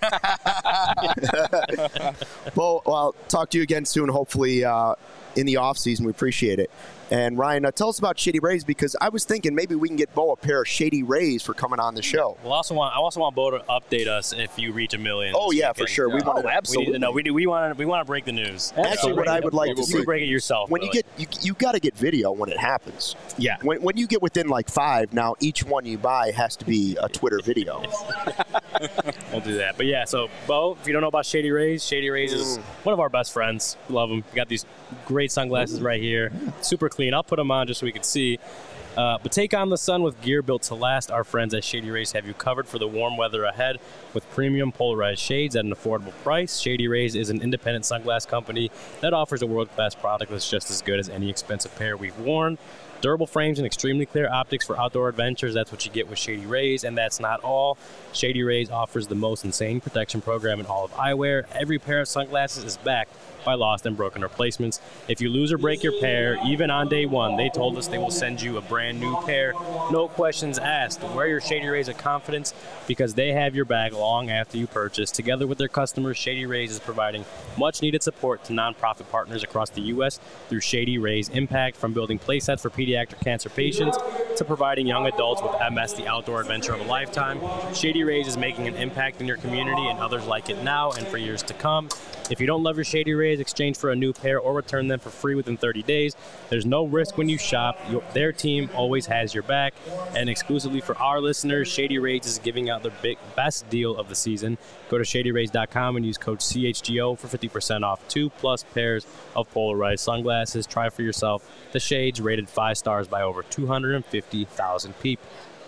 Well, I'll talk to you again soon, hopefully in the off season. We appreciate it. And Ryan, tell us about Shady Rays, because I was thinking maybe we can get Bo a pair of Shady Rays for coming on the show. Well, I also want Bo to update us if you reach 1 million. Oh yeah, for sure. Yeah. Absolutely. We want to break the news. Actually, what I would like to see, you break it yourself. When you got to get video when it happens. Yeah. When you get within like 5, now each one you buy has to be a Twitter video. We'll do that. But yeah, so Bo, if you don't know about Shady Rays is one of our best friends. Love him. We got these great sunglasses right here. Super clean. I'll put them on just so we can see. But take on the sun with gear built to last. Our friends at Shady Rays have you covered for the warm weather ahead with premium polarized shades at an affordable price. Shady Rays is an independent sunglass company that offers a world-class product that's just as good as any expensive pair we've worn. Durable frames and extremely clear optics for outdoor adventures. That's what you get with Shady Rays, and that's not all. Shady Rays offers the most insane protection program in all of eyewear. Every pair of sunglasses is backed by lost and broken replacements. If you lose or break your pair, even on day one, they told us they will send you a brand new pair. No questions asked. Wear your Shady Rays of confidence because they have your back long long after you purchase. Together with their customers, Shady Rays is providing much-needed support to nonprofit partners across the U.S. through Shady Rays Impact, from building playsets for pediatric cancer patients to providing young adults with MS the outdoor adventure of a lifetime. Shady Rays is making an impact in your community and others like it now and for years to come. If you don't love your Shady Rays, exchange for a new pair or return them for free within 30 days. There's no risk when you shop. Their team always has your back. And exclusively for our listeners, Shady Rays is giving out their best deal of the season. Go to ShadyRays.com and use code CHGO for 50% off 2+ pairs of polarized sunglasses. Try for yourself the shades, rated 5 stars by over 250,000 people.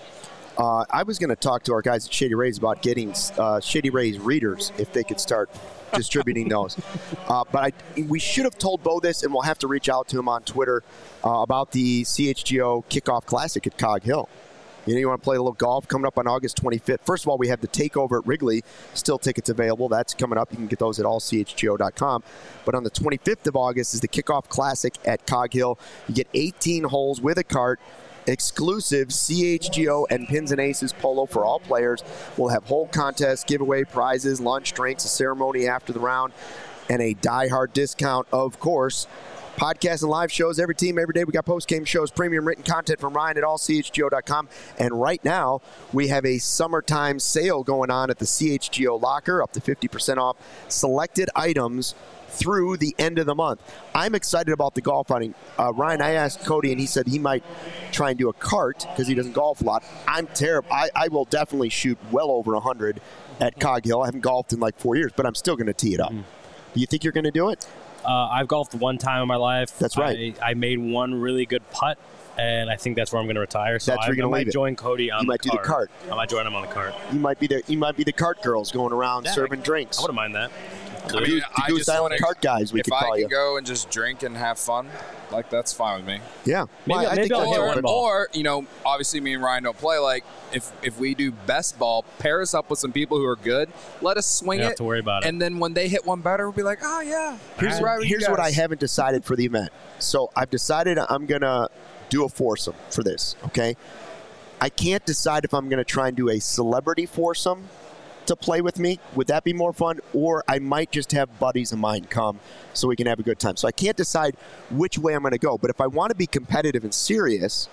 I was going to talk to our guys at Shady Rays about getting Shady Rays readers if they could start distributing those. But we should have told Bo this, and we'll have to reach out to him on Twitter about the CHGO Kickoff Classic at Cog Hill. You want to play a little golf coming up on August 25th. First of all, we have the Takeover at Wrigley. Still tickets available. That's coming up. You can get those at allchgo.com. But on the 25th of August is the Kickoff Classic at Cog Hill. You get 18 holes with a cart. Exclusive CHGO and Pins and Aces polo for all players. We'll have hole contests, giveaway prizes, lunch, drinks, a ceremony after the round, and a die-hard discount, of course. Podcasts and live shows every team, every day. We got post-game shows, premium written content from Ryan at allchgo.com. And right now, we have a summertime sale going on at the CHGO Locker, up to 50% off selected items through the end of the month. I'm excited about the golf outing. Ryan, I asked Cody, and he said he might try and do a cart because he doesn't golf a lot. I'm terrible. I will definitely shoot well over 100 at Cog Hill. I haven't golfed in like 4 years, but I'm still going to tee it up. Do you think you're going to do it? I've golfed one time in my life. That's right. I made one really good putt, and I think that's where I'm going to retire. So that's where you're I might join Cody on the cart. You might do the cart. I might join him on the cart. You might be the cart girls going around serving drinks. I wouldn't mind that. I mean, the Goose Island cart guys, we could call you. If I can go and just drink and have fun, like, that's fine with me. Yeah. Maybe I'll hit one ball. Or, obviously me and Ryan don't play. Like, if we do best ball, pair us up with some people who are good. Let us swing it. You don't have to worry about it. And then when they hit one better, we'll be like, oh, yeah. Here's what I haven't decided for the event. So I've decided I'm going to do a foursome for this, okay? I can't decide if I'm going to try and do a celebrity foursome to play with me. Would that be more fun? Or I might just have buddies of mine come so we can have a good time. So I can't decide which way I'm going to go. But if I want to be competitive and serious,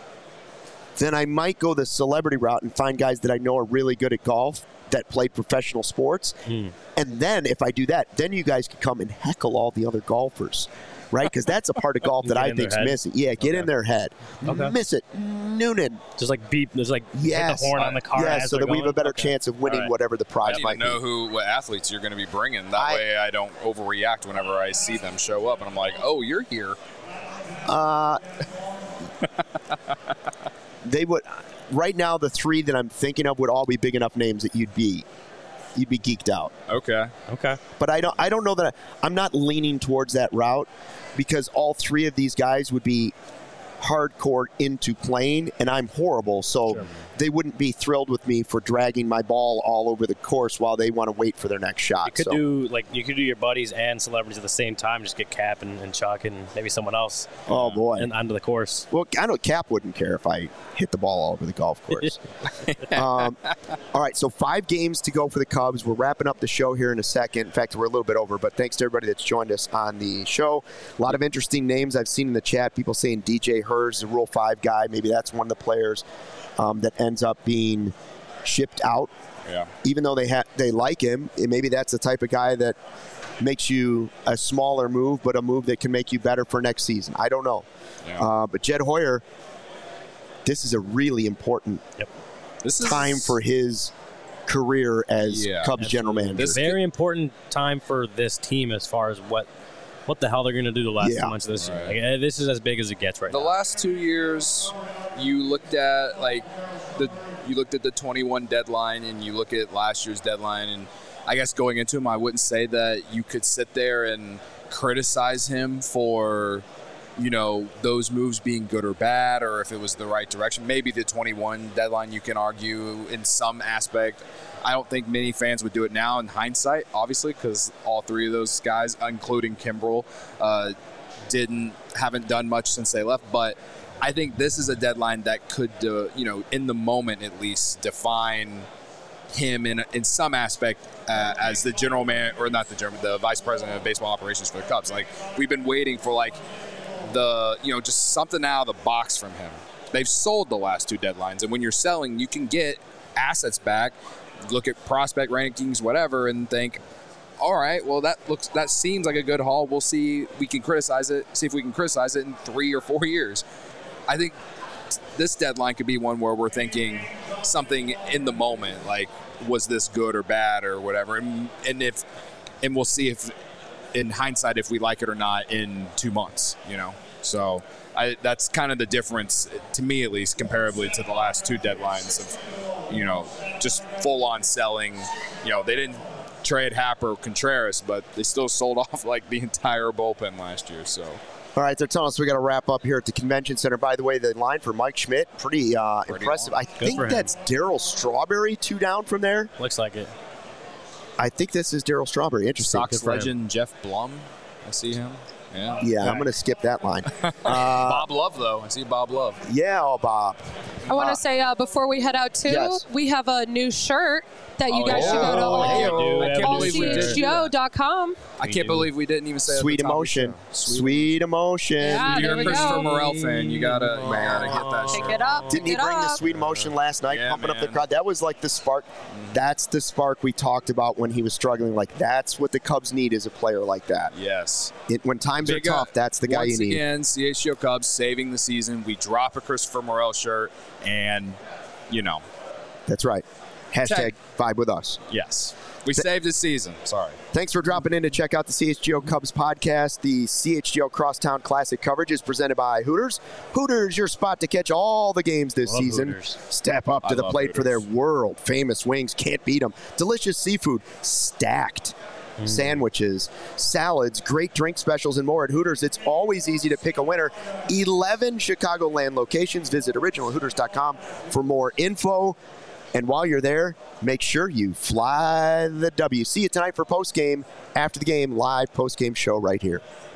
then I might go the celebrity route and find guys that I know are really good at golf that play professional sports. And then if I do that, then you guys can come and heckle all the other golfers. Right? Because that's a part of golf that I think's missing. Yeah, get in their head. Okay. Miss it. Noonan. Just like beep. There's like hit the horn on the car. Yes, so that we have a better chance of winning whatever the prize might be. I need to know what athletes you're going to be bringing. That way I don't overreact whenever I see them show up. And I'm like, oh, you're here. They would. Right now, the three that I'm thinking of would all be big enough names that you'd be geeked out. Okay. But I don't know that I'm not leaning towards that route because all three of these guys would be hardcore into playing, and I'm horrible, so they wouldn't be thrilled with me for dragging my ball all over the course while they want to wait for their next shot. You could do your buddies and celebrities at the same time. Just get Cap and Chuck and maybe someone else. Oh boy, and onto the course. Well, I know Cap wouldn't care if I hit the ball all over the golf course. All right, so 5 games to go for the Cubs. We're wrapping up the show here in a second. In fact, we're a little bit over, but thanks to everybody that's joined us on the show. A lot of interesting names I've seen in the chat. People saying DJ Hurst, the Rule 5 guy. Maybe that's one of the players that ends up being shipped out. Yeah. Even though they like him, maybe that's the type of guy that makes you a smaller move, but a move that can make you better for next season. I don't know. Yeah. But Jed Hoyer, this is a really important time for his career as Cubs general manager. This very important time for this team as far as what the hell they're going to do the last 2 months of this year. Like, this is as big as it gets right now. The last 2 years, you looked at the 21 deadline and you look at last year's deadline, and I guess going into him, I wouldn't say that you could sit there and criticize him for those moves being good or bad, or if it was the right direction. Maybe the 21 deadline you can argue in some aspect. I don't think many fans would do it now in hindsight, obviously, because all 3 of those guys, including Kimbrel, haven't done much since they left. But I think this is a deadline that could, in the moment at least, define him in some aspect as the general man, or not the vice president of baseball operations for the Cubs. Like, we've been waiting for like just something out of the box from him. They've sold the last 2 deadlines, and when you're selling, you can get assets back, look at prospect rankings, whatever, and think, all right, well, that seems like a good haul. We'll see. We can criticize it. See if we can criticize it in 3 or 4 years. I think this deadline could be one where we're thinking something in the moment, like, was this good or bad or whatever, and we'll see if, in hindsight, if we like it or not in 2 months. So that's kind of the difference, to me at least, comparably to the last 2 deadlines of, just full-on selling. They didn't trade Happ or Contreras, but they still sold off like the entire bullpen last year. So. All right, they're telling us we got to wrap up here at the convention center. By the way, the line for Mike Schmidt, pretty impressive. Long. I think that's Darryl Strawberry, 2 down from there. Looks like it. I think this is Darryl Strawberry. Interesting. Sox legend Jeff Blum. I see him. Yeah, I'm going to skip that line. Bob Love, though. I see Bob Love. Yeah, Bob. I want to say before we head out too, yes. we have a new shirt that you guys should go to allchgo.com. I can't believe we didn't even say Sweet Emotion. Sweet Emotion. Yeah, If you're there a we Christopher go. Morel fan, you gotta get that Pick shirt. it up. Didn't he pick it bring the up. Sweet Emotion last night, Yeah, pumping up the man. crowd? That was like the spark. That's the spark we talked about when he was struggling. Like, that's what the Cubs need, is a player like that. Yes. When times are tough, that's the guy you need. Once again, CHGO Cubs saving the season. We drop a Christopher Morel shirt, and That's right. Hashtag vibe with us. yes, we saved the season. Sorry. Thanks for dropping in to check out the CHGO Cubs podcast. The CHGO Crosstown Classic coverage is presented by Hooters. Hooters, your spot to catch all the games this Love season. Hooters. Step up to I the love plate for Hooters. their world-famous wings. Can't beat them. Delicious seafood, stacked sandwiches, salads, great drink specials, and more at Hooters. It's always easy to pick a winner. 11 Chicagoland locations. Visit originalhooters.com for more info. And while you're there, make sure you fly the W. See you tonight for postgame, after the game, live postgame show right here.